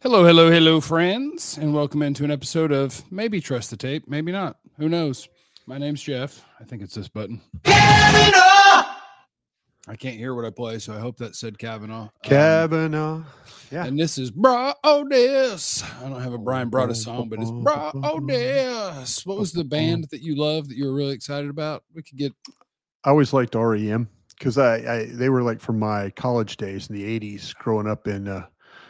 Hello, hello, hello, friends, and welcome into an episode of Maybe Trust the Tape, maybe not. Who knows? My name's Jeff. I think it's this button. Kavanaugh! I can't hear what I play, so I hope that said Kavanaugh. Kavanaugh. Yeah. And this is Bra Odess. I don't have a Brian Broaddus song, but it's Bra Odess. What was the band that you love that you were really excited about? We could get. I always liked REM because they were like from my college days in the 80s, growing up in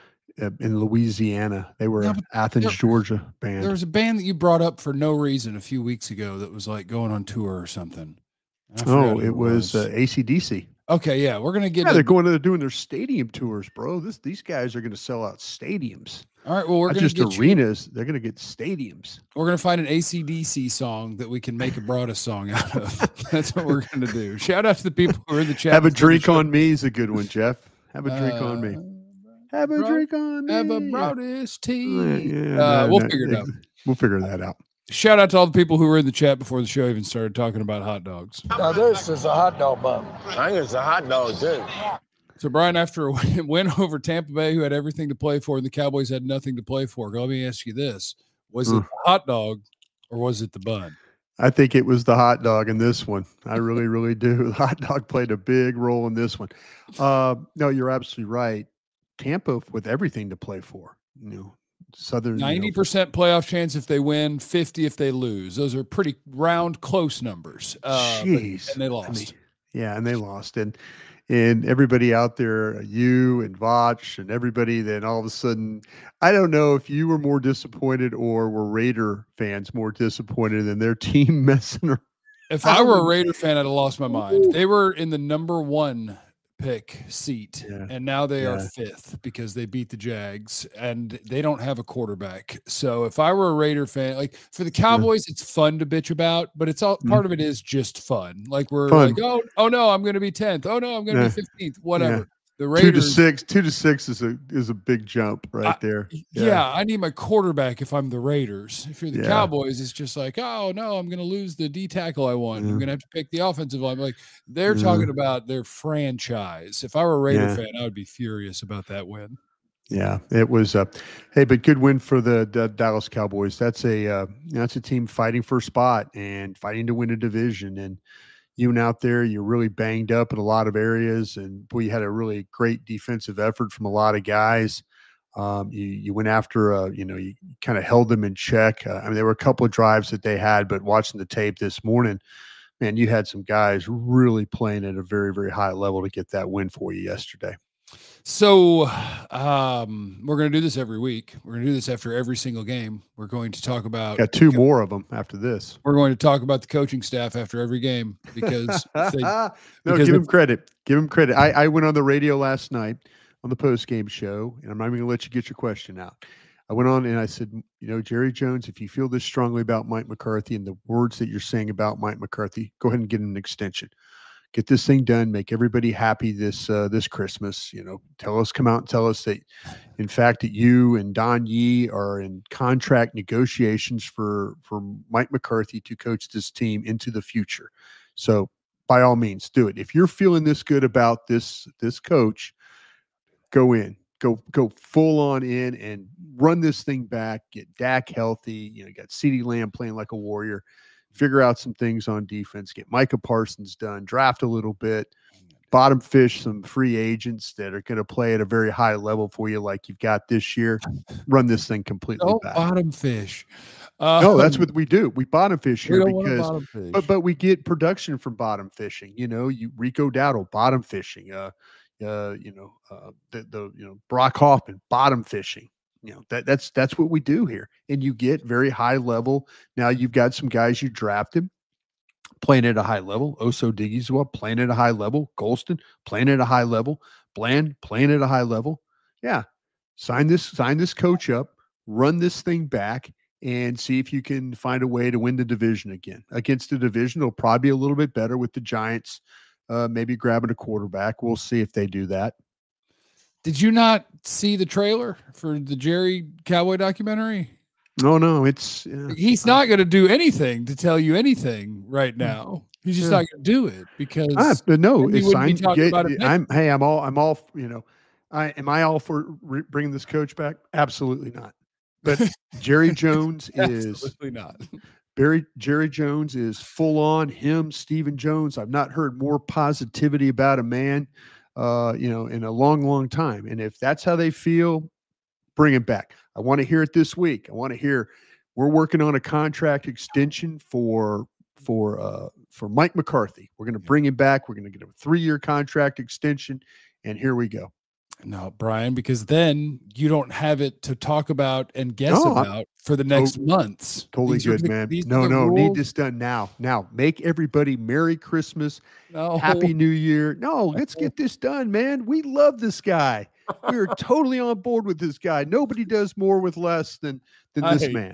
Louisiana. They were Athens, Georgia band. There was a band that you brought up for no reason a few weeks ago that was like going on tour or something. Oh, it was AC/DC. Okay, yeah, we're gonna get. Yeah, they're doing their stadium tours, bro. These guys are gonna sell out stadiums. All right, well, we're not gonna just arenas; they're gonna get stadiums. We're gonna find an AC/DC song that we can make a Broaddus song out of. That's what we're gonna do. Shout out to the people who are in the chat. Have a drink on me is a good one, Jeff. Have a drink on me. Have a drink on me. Have a Broaddus tea. We'll figure it out. We'll figure that out. Shout out to all the people who were in the chat before the show even started talking about hot dogs. Now this is a hot dog bun. I think it's a hot dog too. So Brian, after a win over Tampa Bay, who had everything to play for, and the Cowboys had nothing to play for, let me ask you this: was it the hot dog or was it the bun? I think it was the hot dog in this one. I really, really do. The hot dog played a big role in this one. No, you're absolutely right. Tampa with everything to play for. Southern 90% playoff chance if they win, 50 if they lose. Those are pretty round, close numbers. Jeez, and they lost. And they lost. And everybody out there, you and Vach and everybody, then all of a sudden, I don't know if you were more disappointed or were Raider fans more disappointed in their team messing around. If I were a Raider fan, I'd have lost my mind. They were in the number one pick seat, and now they are fifth because they beat the Jags and they don't have a quarterback. So if I were a Raider fan, like for the Cowboys, it's fun to bitch about, but it's all part of it is just fun. Like we're like, oh no, I'm going to be 10th. Oh no, I'm going to be 15th. Whatever. Yeah. The Raiders, 2 to 6 is a big jump right there. Yeah, I need my quarterback if I'm the Raiders. If you're the Cowboys, it's just like, oh no, I'm going to lose the D tackle I want. I'm going to have to pick the offensive line. Like they're talking about their franchise. If I were a Raider fan, I would be furious about that win. Yeah, it was. Hey, but good win for the Dallas Cowboys. That's a team fighting for a spot and fighting to win a division. And you went out there, you're really banged up in a lot of areas, and we had a really great defensive effort from a lot of guys. You went after, you kind of held them in check. There were a couple of drives that they had, but watching the tape this morning, man, you had some guys really playing at a very, very high level to get that win for you yesterday. So we're going to do this every week. We're going to do this after every single game. We're going to talk about. Got two more of them after this. We're going to talk about the coaching staff after every game because give him credit. Give him credit. I went on the radio last night on the post-game show, and I'm not even going to let you get your question out. I went on and I said, Jerry Jones, if you feel this strongly about Mike McCarthy and the words that you're saying about Mike McCarthy, go ahead and get him an extension. Get this thing done. Make everybody happy this Christmas. Come out and tell us that, in fact, that you and Don Yee are in contract negotiations for Mike McCarthy to coach this team into the future. So, by all means, do it. If you're feeling this good about this coach, go in. Go full on in and run this thing back. Get Dak healthy. You got CeeDee Lamb playing like a warrior. Figure out some things on defense, get Micah Parsons done, draft a little bit, bottom fish some free agents that are going to play at a very high level for you like you've got this year. Run this thing completely back. Bottom fish. No, that's what we do. We bottom fish here because but we get production from bottom fishing. You Rico Dowdle, bottom fishing. Brock Hoffman, bottom fishing. That's what we do here. And you get very high level. Now you've got some guys you drafted playing at a high level. Oso Digizwa playing at a high level. Golston playing at a high level. Bland playing at a high level. Yeah. Sign this coach up, run this thing back, and see if you can find a way to win the division again. Against the division, it'll probably be a little bit better with the Giants maybe grabbing a quarterback. We'll see if they do that. Did you not see the trailer for the Jerry Cowboy documentary? No, he's not going to do anything to tell you anything right now. He's just not going to do it because but no, it's signed. I'm all Am I all for bringing this coach back? Absolutely not. But Jerry Jones is absolutely not. Jerry Jones is full on him. Stephen Jones. I've not heard more positivity about a man, in a long, long time. And if that's how they feel, bring him back. I want to hear it this week. I want to hear we're working on a contract extension for Mike McCarthy. We're going to bring him back. We're going to get a 3-year contract extension, and here we go. No, Brian, because then you don't have it to talk about and guess about for the next months. Totally good, man. No, need this done now. Now, make everybody Merry Christmas, Happy New Year. No, let's get this done, man. We love this guy. We're totally on board with this guy. Nobody does more with less than this man.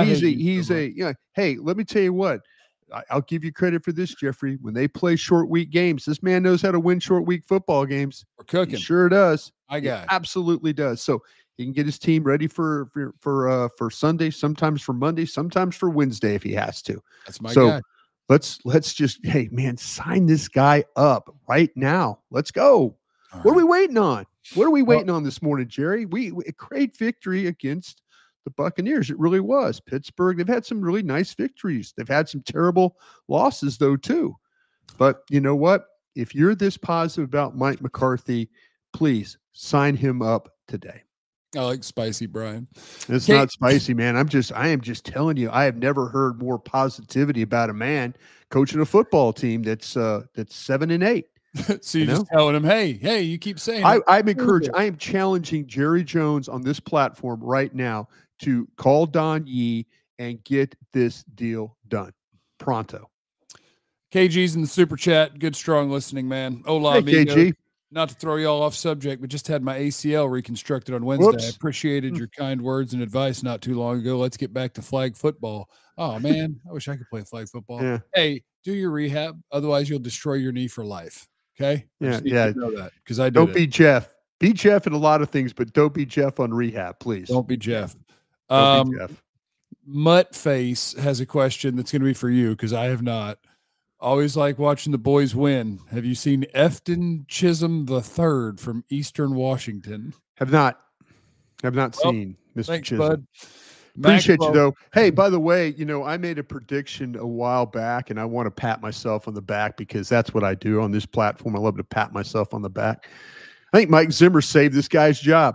Hey, let me tell you what. I'll give you credit for this, Jeffrey. When they play short week games, this man knows how to win short week football games. We're cooking. He sure does. He absolutely does. So he can get his team ready for Sunday, sometimes for Monday, sometimes for Wednesday if he has to. That's my guy. Let's just, hey man, sign this guy up right now. Let's go. What are we waiting on? What are we waiting on this morning, Jerry? We a great victory against the Buccaneers. It really was. Pittsburgh, they've had some really nice victories. They've had some terrible losses, though, too. But you know what? If you're this positive about Mike McCarthy, please sign him up today. I like spicy, Brian. It's not spicy, man. I am just telling you, I have never heard more positivity about a man coaching a football team that's 7-8. So you're just telling him, hey, you keep saying I'm encouraged. I am challenging Jerry Jones on this platform right now to call Don Yee and get this deal done pronto. KG's in the super chat. Good, strong listening, man. Hola, hey, amigo. KG. Not to throw you all off subject, but just had my ACL reconstructed on Wednesday. Whoops. I appreciated your kind words and advice not too long ago. Let's get back to flag football. Oh, man, I wish I could play flag football. Yeah. Hey, do your rehab. Otherwise, you'll destroy your knee for life. Okay? Yeah. Know that because I don't be Jeff. Be Jeff in a lot of things, but don't be Jeff on rehab, please. Don't be Jeff. Don't be Jeff. Muttface has a question that's going to be for you because I have not. Always like watching the boys win. Have you seen Efton Chisholm III from Eastern Washington? Have not seen Mr. Thanks, Chisholm. bud. Appreciate you, though. Hey, by the way, I made a prediction a while back, and I want to pat myself on the back because that's what I do on this platform. I love to pat myself on the back. I think Mike Zimmer saved this guy's job.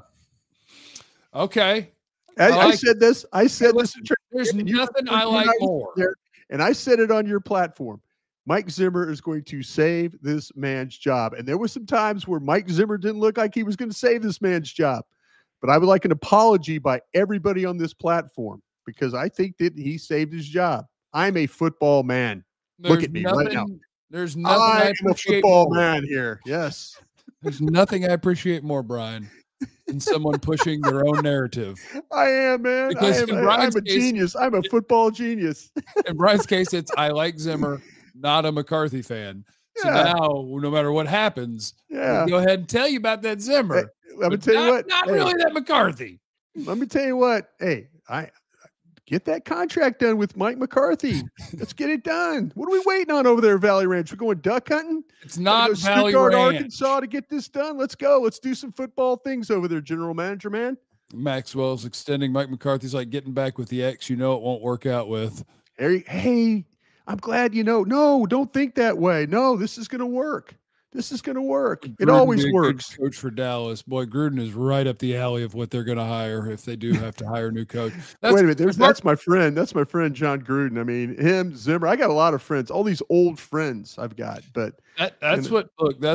Okay. I said this. Listen, there's nothing I like more. And I said it on your platform. Mike Zimmer is going to save this man's job. And there were some times where Mike Zimmer didn't look like he was going to save this man's job. But I would like an apology by everybody on this platform because I think that he saved his job. I'm a football man. Look at me right now. There's nothing I am a football man here. Yes. There's nothing I appreciate more, Brian, than someone pushing their own narrative. I am, man. I'm a genius. I'm a football genius. In Brian's case, it's I like Zimmer, not a McCarthy fan. So now, no matter what happens, I'll go ahead and tell you about that Zimmer. Hey, let me tell you what. Not really that McCarthy. Let me tell you what. Hey, I get that contract done with Mike McCarthy. Let's get it done. What are we waiting on over there, Valley Ranch? We're going duck hunting? It's not Valley Stuttgart, Ranch. Arkansas to get this done. Let's go. Let's do some football things over there, General Manager, man. Maxwell's extending. Mike McCarthy's like getting back with the ex it won't work out with. Hey, I'm glad No, don't think that way. No, this is going to work. This is going to work. It always works. Coach for Dallas. Boy, Gruden is right up the alley of what they're going to hire if they do have to hire a new coach. Wait a minute. That's my friend. That's my friend, John Gruden. I mean, him, Zimmer. I got a lot of friends, all these old friends I've got. But that's part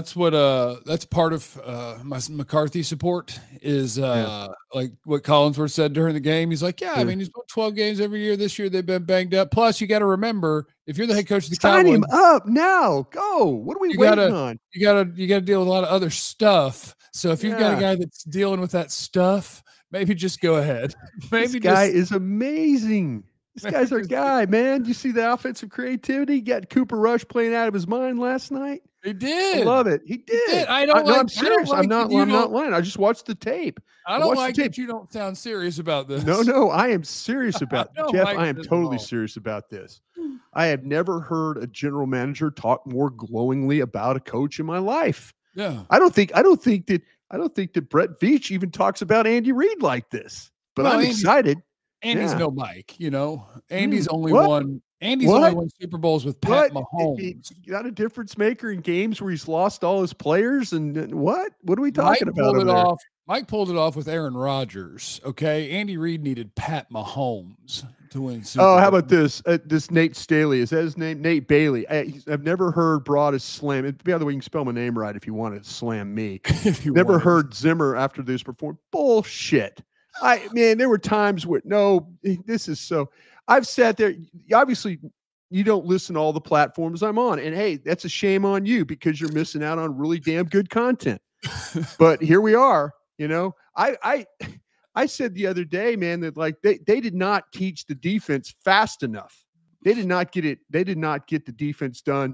of my McCarthy support is like what Collinsworth said during the game. He's like, I mean, he's won 12 games every year. This year they've been banged up. Plus, you got to remember, if you're the head coach of the Cowboys, sign him up now. Go. What are we waiting on? You gotta deal with a lot of other stuff. So if you've got a guy that's dealing with that stuff, maybe just go ahead. This guy is amazing. This guy's our guy, man. Do you see the offensive creativity? He got Cooper Rush playing out of his mind last night. He did. I love it. He did. I'm serious. I'm not lying. I just watched the tape. I don't like that you don't sound serious about this. No, I am serious about it. Jeff, I am totally serious about this. I have never heard a general manager talk more glowingly about a coach in my life. Yeah. I don't think that I don't think that Brett Veach even talks about Andy Reid like this. But I'm excited. Andy's no Mike, you know. Andy's only won Super Bowls with Pat Mahomes. He got a difference maker in games where he's lost all his players. And what? What are we talking about? Mike pulled it off with Aaron Rodgers. Okay, Andy Reid needed Pat Mahomes to win Super Bowl. How about this? This Nate Staley, is that his name? Nate Bailey. I've never heard Broadus slam. By the way, you can spell my name right if you want to slam me. Never heard Zimmer after this perform. Bullshit. There were times where this is so. I've sat there. Obviously, you don't listen to all the platforms I'm on, and hey, that's a shame on you because you're missing out on really damn good content. But here we are. You know, I said the other day, man, that like they did not teach the defense fast enough. They did not get it. They did not get the defense done.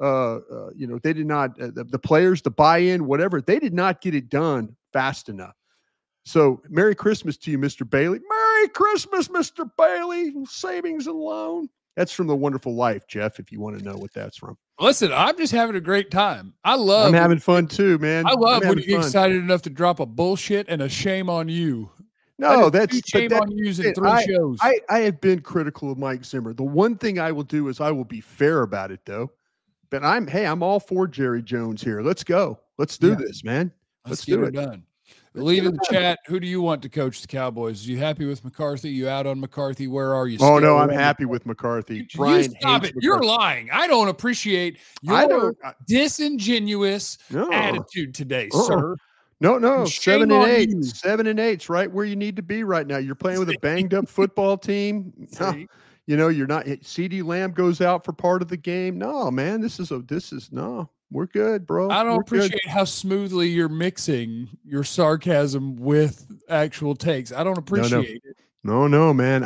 They did not the players, the buy-in, whatever. They did not get it done fast enough. So Merry Christmas to you, Mr. Bailey. Merry Christmas, Mr. Bailey. Savings and loan. That's from The Wonderful Life, Jeff, if you want to know what that's from. Listen, I'm just having a great time. I'm having fun too, man. I love when you get excited enough to drop a bullshit and a shame on you. No, that's shame on you in 3 shows. I have been critical of Mike Zimmer. The one thing I will do is I will be fair about it, though. But I'm all for Jerry Jones here. Let's go. Let's do this, man. Let's do it. Done. Lead in the chat. Who do you want to coach the Cowboys? Are you happy with McCarthy? You out on McCarthy? Where are you? Oh, no, I'm happy with McCarthy. Brian, stop it. You're lying. I don't appreciate your disingenuous attitude today, sir. No. 7 and 8. 7 and 8's right where you need to be right now. You're playing with a banged up football team. You're not. CeeDee Lamb goes out for part of the game. No, man, this is no. We're good, bro. I don't appreciate how smoothly you're mixing your sarcasm with actual takes. I don't appreciate it. No, man.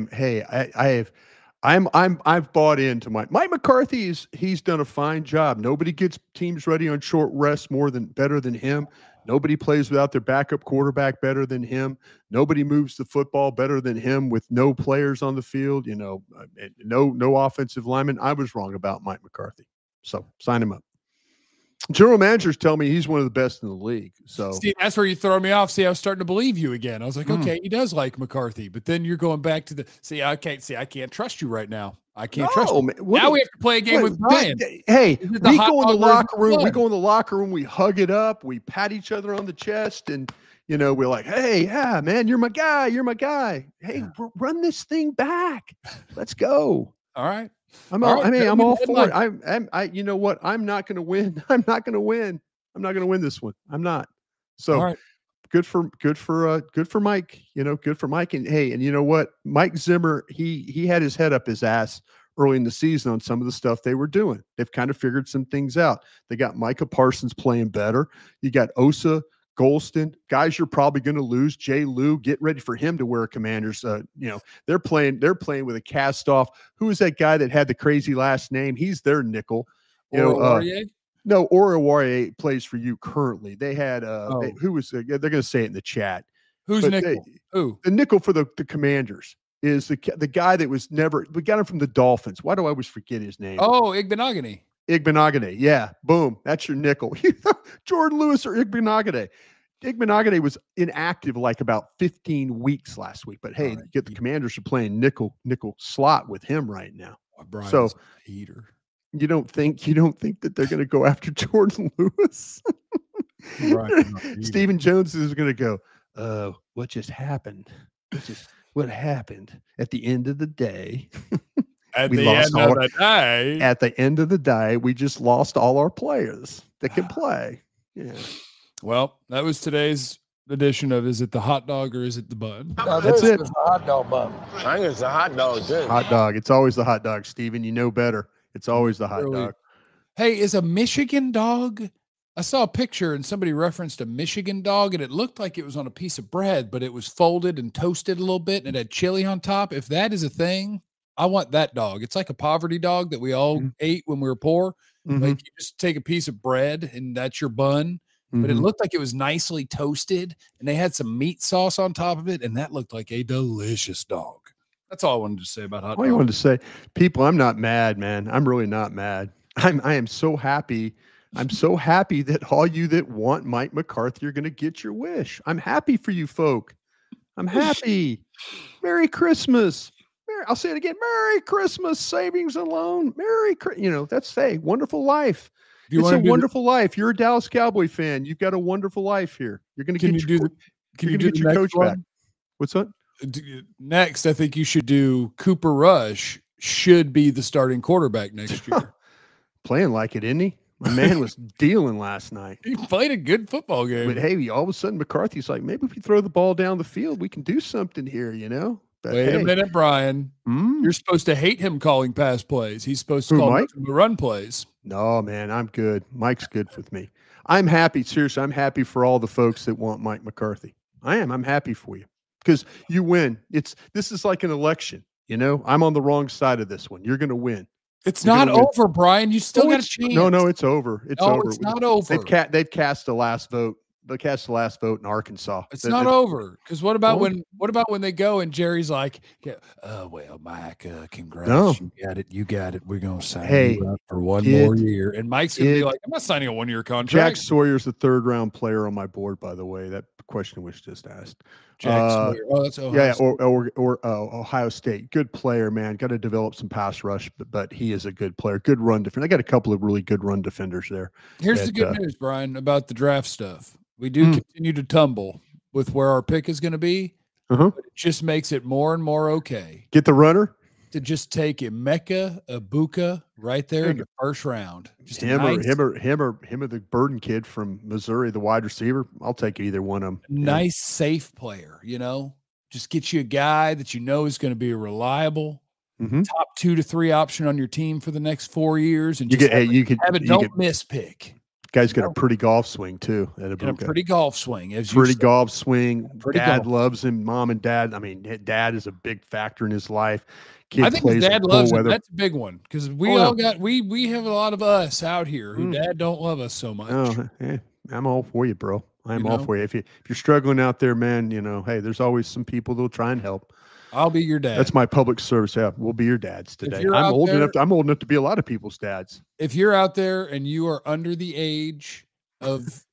I've bought into Mike McCarthy. He's done a fine job. Nobody gets teams ready on short rest better than him. Nobody plays without their backup quarterback better than him. Nobody moves the football better than him with no players on the field. No offensive lineman. I was wrong about Mike McCarthy. So sign him up. General managers tell me he's one of the best in the league. So see, that's where you throw me off. See, I was starting to believe you again. I was like, okay, he does like McCarthy, but then you're going back to I can't trust you right now. I can't trust you. Now we have to play a game with Brian. Hey, we go in the locker room. We go in the locker room. We hug it up. We pat each other on the chest, and we're like, hey, yeah, man, you're my guy. You're my guy. Hey, run this thing back. Let's go. All right. I'm all for it. You know what? I'm not going to win. I'm not going to win this one. I'm not. So good for Mike, good for Mike. And hey, and you know what? Mike Zimmer, he had his head up his ass early in the season on some of the stuff they were doing. They've kind of figured some things out. They got Micah Parsons playing better. You got Osa, Golston, guys you're probably going to lose. Jay Lou, get ready for him to wear a Commanders. They're playing with a cast off. Who is that guy that had the crazy last name? He's their nickel. No, Oruwariye plays for you currently. They had who was they're going to say it in the chat. Who's nickel? Who? The nickel for the Commanders is the guy that was never. We got him from the Dolphins. Why do I always forget his name? Oh, Igbenogany. Igbenogany. Yeah. Boom. That's your nickel. Jordan Lewis or Igbenogany. Igbenogany was inactive like about 15 weeks last week. But hey, the Commanders are playing nickel slot with him right now. Brian's so heater. You don't think that they're going to go after Jordan Lewis? Stephen Jones is going to go, what just happened? What happened at the end of the day? At the end of the day, we just lost all our players that can play. Yeah. Well, that was today's edition of Is It the Hot Dog or Is It the Bun? No, that's it. It's the hot dog bun. I think it's a hot dog, too. Hot dog. It's always the hot dog, Steven. You know better. It's always the hot dog. Hey, is a Michigan dog? I saw a picture and somebody referenced a Michigan dog, and it looked like it was on a piece of bread, but it was folded and toasted a little bit, and it had chili on top. If that is a thing, I want that dog. It's like a poverty dog that we all ate when we were poor. Like you just take a piece of bread and that's your bun. But it looked like it was nicely toasted and they had some meat sauce on top of it. And that looked like a delicious dog. That's all I wanted to say about hot dog. All you wanted to say, people, I'm not mad, man. I'm really not mad. I am so happy I'm so happy that all you that want Mike McCarthy are going to get your wish. I'm happy for you folk. I'm happy. Merry Christmas. I'll say it again. Merry Christmas, savings and loan. That's wonderful life. It's a wonderful life. You're a Dallas Cowboy fan. You've got a wonderful life here. You're going to get your coach back. What's that? Next, I think you should do Cooper Rush should be the starting quarterback next year. Playing like it, isn't he? My man was dealing last night. He played a good football game. But hey, all of a sudden McCarthy's like, maybe if we throw the ball down the field, we can do something here, But Wait a minute, Brian. You're supposed to hate him calling pass plays. He's supposed to call the run plays. No, man, I'm good. Mike's good with me. I'm happy. Seriously, I'm happy for all the folks that want Mike McCarthy. I am. I'm happy for you because you win. This is like an election. I'm on the wrong side of this one. You're going to win. It's not over, Brian. You still got a chance. No, it's over. It's over. It's not over. They've cast the last vote. They cast the last vote in Arkansas. It's not over. Because what about when they go and Jerry's like, well, Mike, congrats. No. You got it. We're gonna sign you up for one more year. And Mike's gonna be like, I'm not signing a 1-year contract. Jack Sawyer's the 3rd round player on my board, by the way. That question was just asked. Jack Sawyer. Oh, that's Ohio State. or Ohio State. Good player, man. Got to develop some pass rush, but he is a good player. Good run defender. I got a couple of really good run defenders there. Here's the good news, Brian, about the draft stuff. We do continue to tumble with where our pick is going to be. But it just makes it more and more okay. Get the runner to just take Emeka Egbuka right there in the first round. Just him or the Burden kid from Missouri, the wide receiver. I'll take either one of them. Nice, safe player. Just get you a guy that is going to be a reliable top 2 to 3 option on your team for the next 4 years, and have a don't miss pick. Guy's got a pretty golf swing too. A pretty golf swing. Golf swing. Dad loves him. Mom and dad. I mean, dad is a big factor in his life. I think his dad loves him. That's a big one because we have a lot of us out here who dad don't love us so much. Oh, hey, I'm all for you, bro. I'm all for you. If you're struggling out there, man, hey, there's always some people that'll try and help. I'll be your dad. That's my public service. Yeah, we'll be your dads today. I'm old enough to be a lot of people's dads. If you're out there and you are under the age of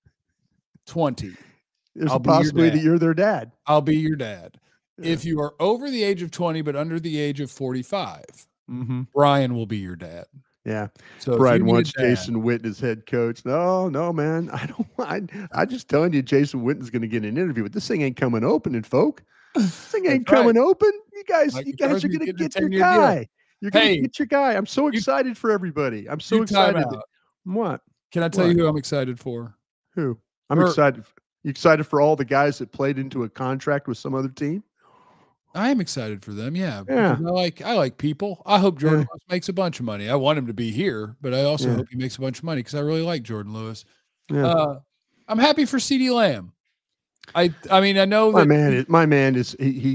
20, there's a possibility that you're their dad. I'll be your dad. Yeah. If you are over the age of 20 but under the age of 45, Brian will be your dad. Yeah. So Brian wants Jason Witten as head coach. No, man. I'm just telling you, Jason Witten's going to get an interview, but this thing ain't coming open, folk. This thing ain't coming open. You guys are going to get your guy. You're going to get your guy. I'm so excited for everybody. I'm so excited. What? Can I tell you who I'm excited for? Who? I'm excited. You excited for all the guys that played into a contract with some other team? I am excited for them. Yeah. I like people. I hope Jordan Lewis makes a bunch of money. I want him to be here, but I also hope he makes a bunch of money because I really like Jordan Lewis. Yeah. I'm happy for CeeDee Lamb. I mean, I know that my man is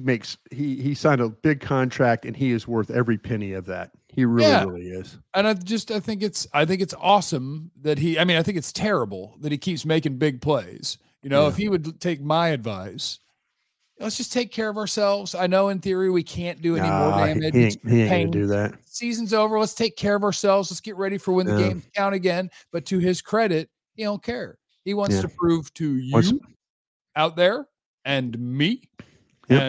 he signed a big contract and he is worth every penny of that. He really is. And I think it's awesome that I think it's terrible that he keeps making big plays. If he would take my advice, let's just take care of ourselves. I know in theory we can't do any more damage. He ain't gonna do that. Season's over. Let's take care of ourselves. Let's get ready for when the games count again. But to his credit, he don't care. He wants to prove to you out there and me and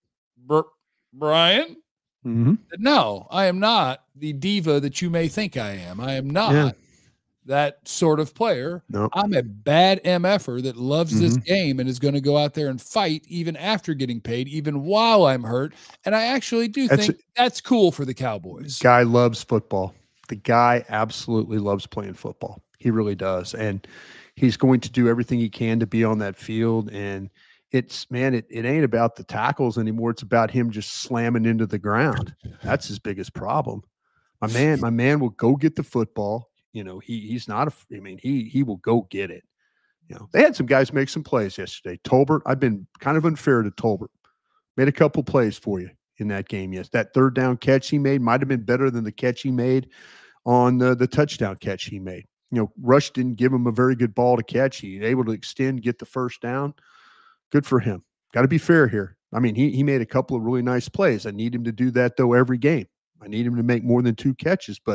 Brian that no, I am not the diva that you may think I am. I am not that sort of player. No. I'm a bad MFer that loves this game and is going to go out there and fight even after getting paid, even while I'm hurt. And I actually do think that's cool for the Cowboys. Guy loves football. The guy absolutely loves playing football. He really does. And he's going to do everything he can to be on that field. And it ain't about the tackles anymore. It's about him just slamming into the ground. That's his biggest problem. My man will go get the football. He's not he will go get it. They had some guys make some plays yesterday. Tolbert, I've been kind of unfair to Tolbert. Made a couple plays for you in that game. Yes, that 3rd down catch he made might have been better than the catch he made on the touchdown catch he made. Rush didn't give him a very good ball to catch. He was able to extend, get the 1st down. Good for him. Got to be fair here. I mean, he made a couple of really nice plays. I need him to do that, though, every game. I need him to make more than 2 catches, but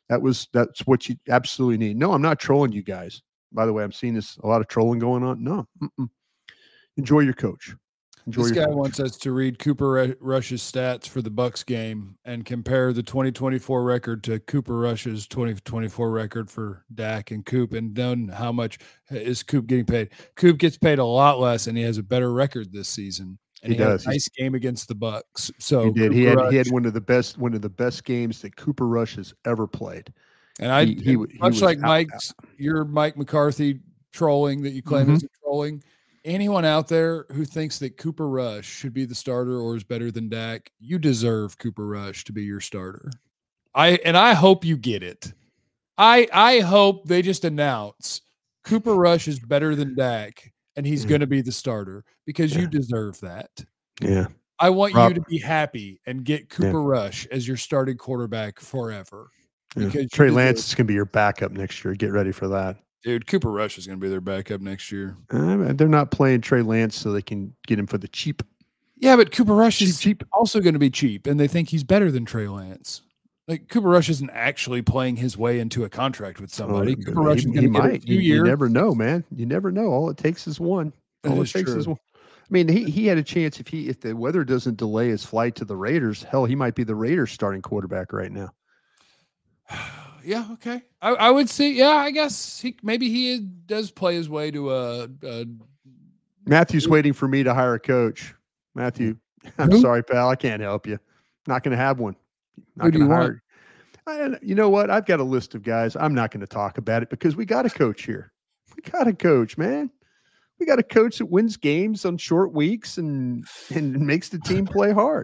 That's what you absolutely need. No, I'm not trolling you guys. By the way, I'm seeing a lot of trolling going on. No, enjoy your coach. This guy wants us to read Cooper Rush's stats for the Bucks game and compare the 2024 record to Cooper Rush's 2024 record for Dak and Coop, and then how much is Coop getting paid. Coop gets paid a lot less, and he has a better record this season. And he does. Had a nice game against the Bucks. So he did. He had one of the best games that Cooper Rush has ever played. And he much like your Mike McCarthy trolling that you claim is trolling. Anyone out there who thinks that Cooper Rush should be the starter or is better than Dak, you deserve Cooper Rush to be your starter. I hope you get it. I hope they just announce Cooper Rush is better than Dak and he's going to be the starter because you deserve that. Yeah. I want you to be happy and get Cooper Rush as your starting quarterback forever. Because Trey Lance is going to be your backup next year. Get ready for that. Dude, Cooper Rush is going to be their backup next year. They're not playing Trey Lance so they can get him for the cheap. Yeah, but Cooper Rush is also going to be cheap, and they think he's better than Trey Lance. Like, Cooper Rush isn't actually playing his way into a contract with somebody. Cooper Rush is going to get a few years. You never know, man. You never know. All it takes is one. All it takes is one. I mean, he had a chance if the weather doesn't delay his flight to the Raiders. Hell, he might be the Raiders starting quarterback right now. Yeah, okay. I would see. Yeah, I guess he does play his way to a. Matthew's waiting for me to hire a coach. Matthew, I'm sorry, pal. I can't help you. Not going to have one. Who do you want? You know what? I've got a list of guys. I'm not going to talk about it because we got a coach here. We got a coach, man. We got a coach that wins games on short weeks and makes the team play hard.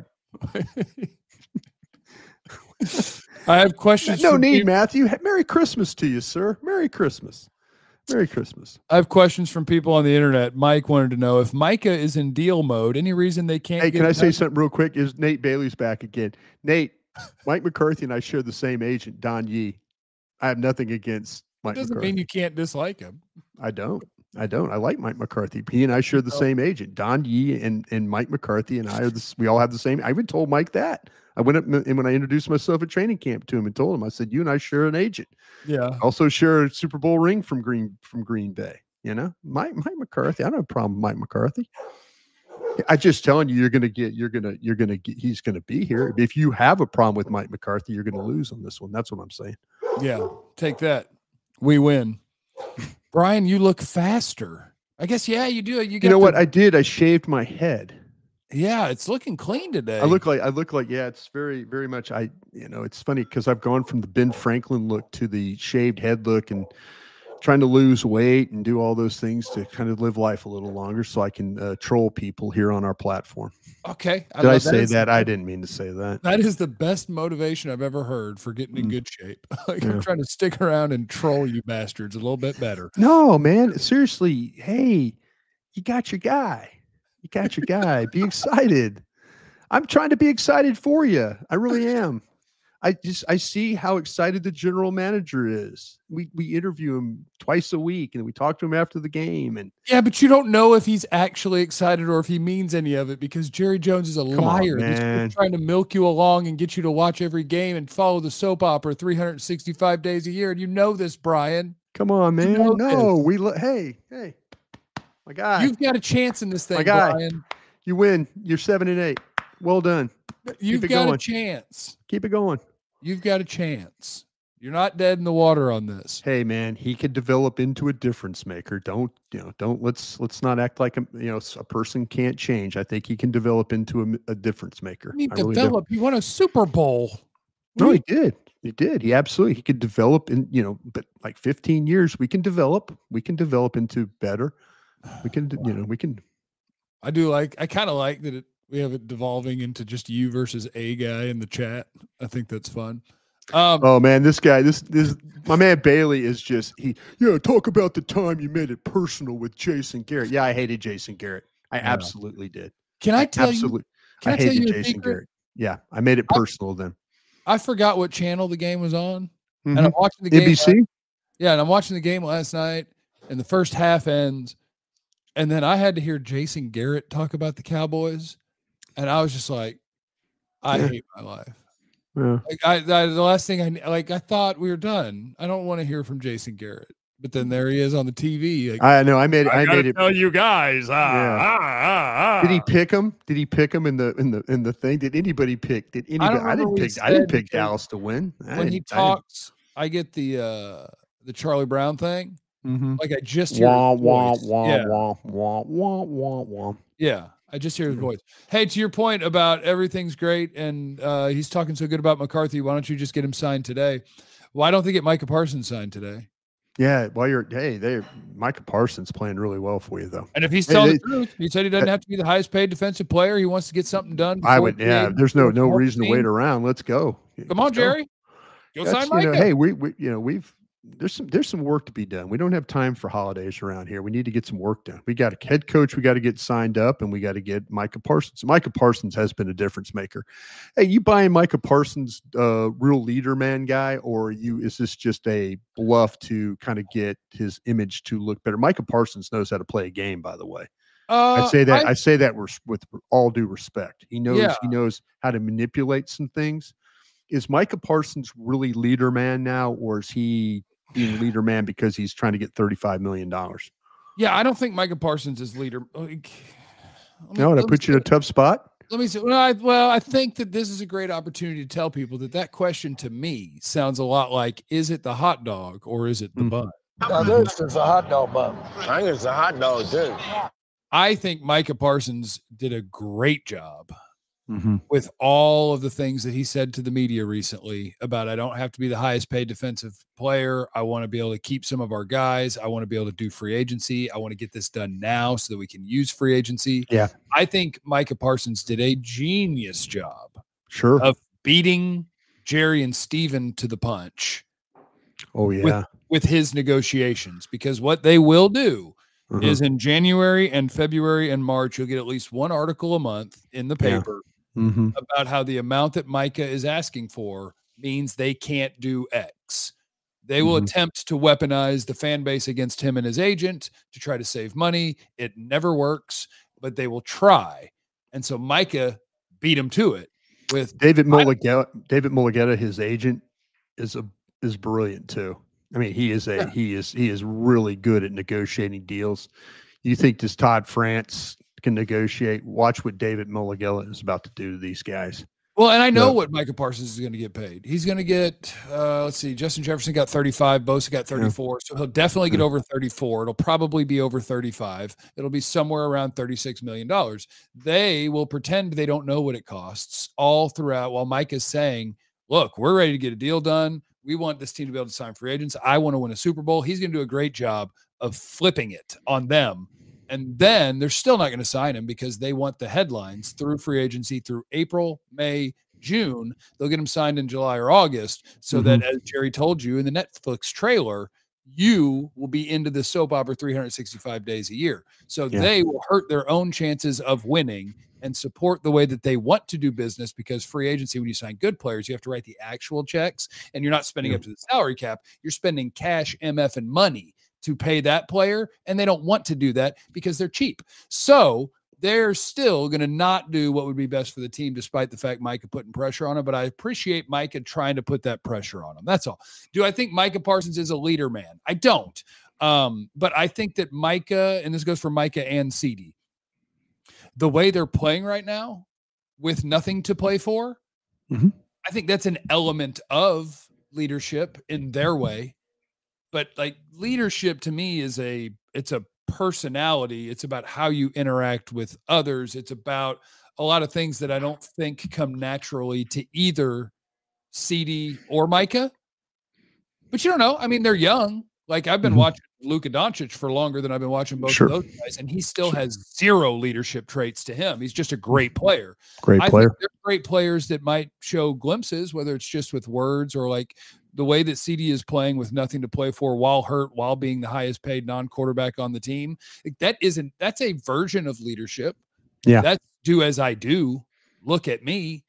I have questions. No need, Matthew. Merry Christmas to you, sir. Merry Christmas. Merry Christmas. I have questions from people on the internet. Mike wanted to know if Micah is in deal mode. Any reason they can't? Hey, can I say something real quick? Is Nate Bailey's back again? Nate, Mike McCarthy and I share the same agent, Don Yee. I have nothing against Mike McCarthy. Doesn't mean you can't dislike him. I don't. I like Mike McCarthy. He and I share the same agent, Don Yee and Mike McCarthy, and we all have the same. I even told Mike that. I went up and when I introduced myself at training camp to him and told him, I said, you and I share an agent. Yeah. Also share a Super Bowl ring from Green Bay. You know, Mike McCarthy. I don't have a problem with Mike McCarthy. I just telling you, he's going to be here. If you have a problem with Mike McCarthy, you're going to lose on this one. That's what I'm saying. Yeah. Take that. We win. Brian, you look faster. I guess, yeah, you do. You know what I did? I shaved my head. Yeah, it's looking clean today. I look like it's very, very much. It's funny because I've gone from the Ben Franklin look to the shaved head look and trying to lose weight and do all those things to kind of live life a little longer so I can troll people here on our platform. Okay. Did I say that? I didn't mean to say that. That is the best motivation I've ever heard for getting in good shape. I'm trying to stick around and troll you bastards a little bit better. No, man. Seriously. Hey, you got your guy. You got your guy. Be excited. I'm trying to be excited for you. I really am. I see how excited the general manager is. We interview him twice a week and we talk to him after the game. And yeah, but you don't know if he's actually excited or if he means any of it because Jerry Jones is a liar. He's trying to milk you along and get you to watch every game and follow the soap opera 365 days a year. And you know this, Brian. Come on, man. Hey, my guy. You've got a chance in this thing, Brian. You win. You're 7-8. Well done. You've got a chance. Keep it going. You've got a chance. You're not dead in the water on this. Hey, man, he could develop into a difference maker. Let's not act like a person can't change. I think he can develop into a difference maker. He won a Super Bowl. No, he did. He absolutely. He could develop but like 15 years, we can develop into better. We can. I kind of like that we have it devolving into just you versus a guy in the chat. I think that's fun. Oh man, this guy, this my man Bailey is just talk about the time you made it personal with Jason Garrett. Yeah, I hated Jason Garrett. I absolutely did. Can I tell you? I hated Jason Garrett. Yeah, I made it personal then. I forgot what channel the game was on, and I'm watching the game. NBC. And I'm watching the game last night, and the first half ends, and then I had to hear Jason Garrett talk about the Cowboys, and I was just like, I hate my life. Yeah. Like the last thing I thought we were done. I don't want to hear from Jason Garrett, but then there he is on the TV. Like, I know. I made it. Tell you guys. Did he pick him? Did he pick him in the thing? Did anybody pick? I didn't pick Dallas to win. When he talks, I get the Charlie Brown thing. Mm-hmm. Like I just hear his voice. Yeah, I just hear his voice. Hey, to your point about everything's great and he's talking so good about McCarthy, why don't you just get him signed today? Why don't they get Micah Parsons signed today? Yeah, Micah Parsons playing really well for you though. And if he's telling the truth, he said he doesn't have to be the highest paid defensive player. He wants to get something done. There's no reason to wait around. Let's go. Come on, Jerry. Go sign Micah. Hey, there's some work to be done. We don't have time for holidays around here. We need to get some work done. We got a head coach we got to get signed up, and we got to get Micah Parsons. Micah Parsons has been a difference maker. Hey, you buying Micah Parsons real leader man guy, or is this just a bluff to kind of get his image to look better? Micah Parsons knows how to play a game, by the way. I say that with all due respect. He knows how to manipulate some things. Is Micah Parsons really leader man now, or is he being leader man because he's trying to get $35 million? Yeah, I don't think Micah Parsons is leader. No, did I put you in a tough spot? Let me see. Well, I think that this is a great opportunity to tell people that question to me sounds a lot like, is it the hot dog or is it the bun? Now this is a hot dog bun. I think it's a hot dog, too. I think Micah Parsons did a great job with all of the things that he said to the media recently about, I don't have to be the highest paid defensive player. I want to be able to keep some of our guys. I want to be able to do free agency. I want to get this done now so that we can use free agency. Yeah. I think Micah Parsons did a genius job of beating Jerry and Steven to the punch. Oh, yeah. With his negotiations, because what they will do is in January and February and March, you'll get at least one article a month in the paper about how the amount that Micah is asking for means they can't do X. They will attempt to weaponize the fan base against him and his agent to try to save money. It never works, but they will try. And so Micah beat him to it with David Mulligetta, his agent, is brilliant too. I mean, he is really good at negotiating deals. You think this Todd France can negotiate? Watch what David Mulligetta is about to do to these guys. Well, and I know what Micah Parsons is going to get paid. He's going to get, let's see, Justin Jefferson got 35, Bosa got 34. So he'll definitely get over 34. It'll probably be over 35. It'll be somewhere around $36 million. They will pretend they don't know what it costs all throughout while Micah's saying, look, we're ready to get a deal done. We want this team to be able to sign free agents. I want to win a Super Bowl. He's going to do a great job of flipping it on them. And then they're still not going to sign him because they want the headlines through free agency through April, May, June. They'll get him signed in July or August so that, as Jerry told you in the Netflix trailer, you will be into the soap opera 365 days a year. So they will hurt their own chances of winning and support the way that they want to do business, because free agency, when you sign good players, you have to write the actual checks and you're not spending up to the salary cap. You're spending cash, MF, and money to pay that player, and they don't want to do that because they're cheap. So they're still going to not do what would be best for the team, despite the fact Micah putting pressure on him. But I appreciate Micah trying to put that pressure on him. That's all. Do I think Micah Parsons is a leader man? I don't. But I think that Micah, and this goes for Micah and CeeDee, the way they're playing right now with nothing to play for, I think that's an element of leadership in their way. But like leadership to me it's a personality. It's about how you interact with others. It's about a lot of things that I don't think come naturally to either CeeDee or Micah. But you don't know. I mean, they're young. Like I've been watching Luka Doncic for longer than I've been watching both of those guys, and he still has zero leadership traits to him. He's just a great player. I think they're great players that might show glimpses, whether it's just with words or like the way that CeeDee is playing with nothing to play for while hurt, while being the highest paid non-quarterback on the team. That's a version of leadership. Yeah. That's do as I do. Look at me.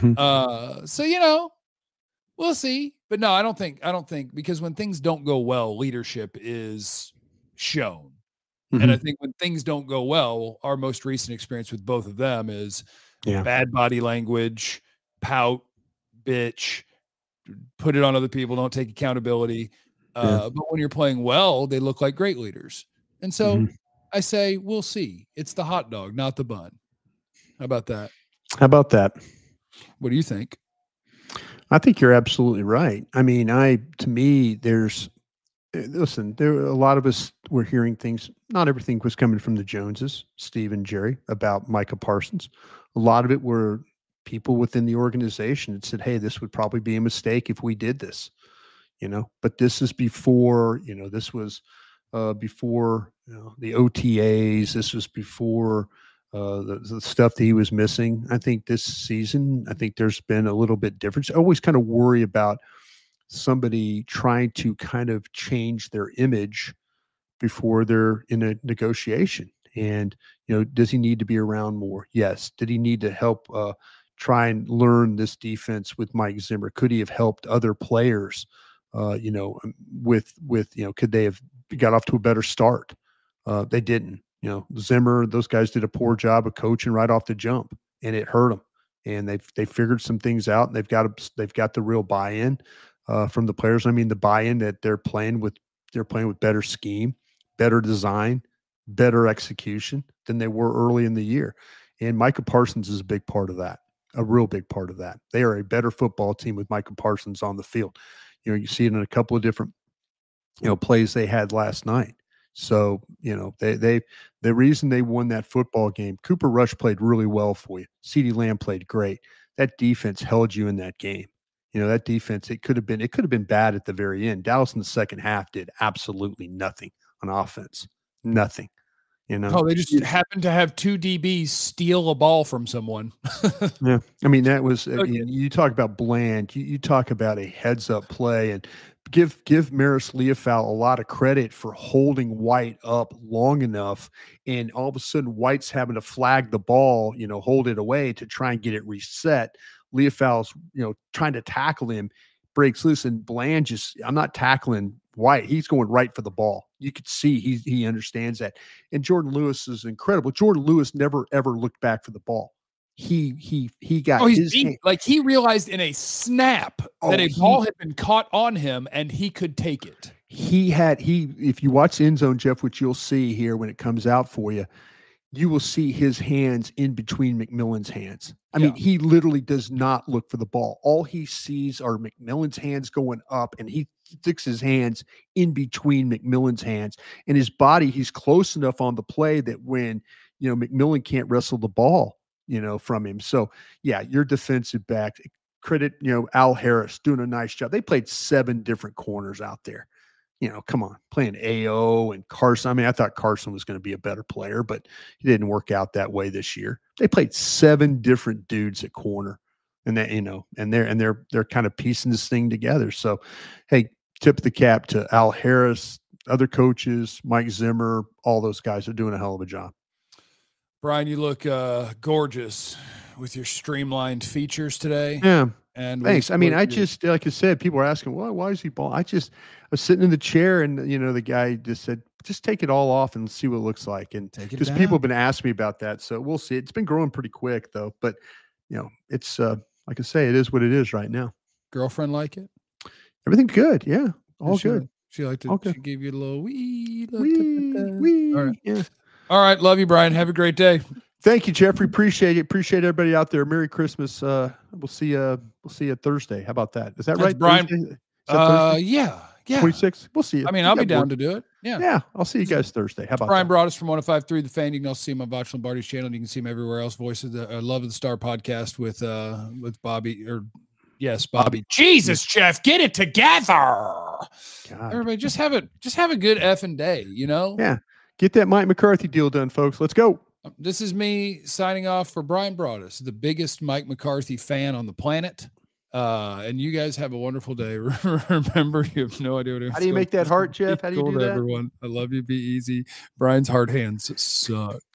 So, we'll see. But no, I don't think, because when things don't go well, leadership is shown. And I think when things don't go well, our most recent experience with both of them is bad body language, pout, bitch, put it on other people, don't take accountability. But when you're playing well, they look like great leaders. And so I say, we'll see. It's the hot dog, not the bun. How about that? What do you think? I think you're absolutely right. I mean, listen, there a lot of us were hearing things. Not everything was coming from the Joneses, Steve and Jerry, about Micah Parsons. A lot of it were people within the organization that said, hey, this would probably be a mistake if we did this, but this is before, this was before the OTAs. This was before the stuff that he was missing. I think this season, there's been a little bit different. I always kind of worry about somebody trying to kind of change their image before they're in a negotiation. And, does he need to be around more? Yes. Did he need to help try and learn this defense with Mike Zimmer? Could he have helped other players, could they have got off to a better start? They didn't. Zimmer, those guys did a poor job of coaching right off the jump, and it hurt them. And they figured some things out, and they've got the real buy-in from the players. I mean, the buy-in that they're playing with better scheme, better design, better execution than they were early in the year. And Micah Parsons is a big part of that, a real big part of that. They are a better football team with Micah Parsons on the field. You see it in a couple of different, plays they had last night. So, the reason they won that football game, Cooper Rush played really well for you. CeeDee Lamb played great. That defense held you in that game. That defense, it could have been bad at the very end. Dallas in the second half did absolutely nothing on offense. Nothing. They just happened to have two DBs steal a ball from someone. Yeah. I mean, that was, you talk about bland, you talk about a heads up play, and give Maris Leofau a lot of credit for holding White up long enough. And all of a sudden White's having to flag the ball, hold it away to try and get it reset. Leofau's, trying to tackle him, breaks loose, and Bland I'm not tackling White. He's going right for the ball. You could see he understands that. And Jordan Lewis is incredible. Jordan Lewis never, ever looked back for the ball. He got his hand. Like he realized in a snap that a ball had been caught on him and he could take it. If you watch the end zone, Jeff, which you'll see here when it comes out for you, you will see his hands in between McMillan's hands. I mean, he literally does not look for the ball. All he sees are McMillan's hands going up, and he sticks his hands in between McMillan's hands. And his body, he's close enough on the play that when, McMillan can't wrestle the ball, from him. So, yeah, your defensive back, credit, Al Harris doing a nice job. They played 7 different corners out there. Come on, playing AO and Carson. I mean, I thought Carson was going to be a better player, but he didn't work out that way this year. They played 7 different dudes at corner, and that, and they're kind of piecing this thing together. So, hey, tip of the cap to Al Harris, other coaches, Mike Zimmer, all those guys are doing a hell of a job. Brian, you look gorgeous with your streamlined features today. Yeah. And thanks. I mean, I just, like I said, people are asking, well, why is he bald? I was sitting in the chair, and the guy just said, just take it all off and see what it looks like. And just people have been asking me about that. So we'll see. It's been growing pretty quick though, but it's like I say, it is what it is right now. Girlfriend like it? Everything's good. Yeah. All good. She liked it. Okay. She gave you a little wee. All right. Yeah. All right. Love you, Brian. Have a great day. Thank you, Jeffrey. Appreciate it. Appreciate everybody out there. Merry Christmas. We'll see you Thursday. How about that? Is that right, Brian? Yeah. 26. We'll see you. I mean, I'll be down to do it. Yeah. Yeah. I'll see you guys Thursday. How about Brian Broaddus from 105.3 The Fan. You can also see him on Botch Lombardi's channel. You can see him everywhere else. Voice of the Love of the Star podcast with Bobby Bobby. Jesus, Jeff, get it together. God. Everybody, just have a good effing day. Yeah. Get that Mike McCarthy deal done, folks. Let's go. This is me signing off for Brian Broaddus, the biggest Mike McCarthy fan on the planet. And you guys have a wonderful day. Remember, you have no idea. How do you make that heart, Jeff? How do you do that? Everyone, I love you. Be easy. Brian's hard hands suck.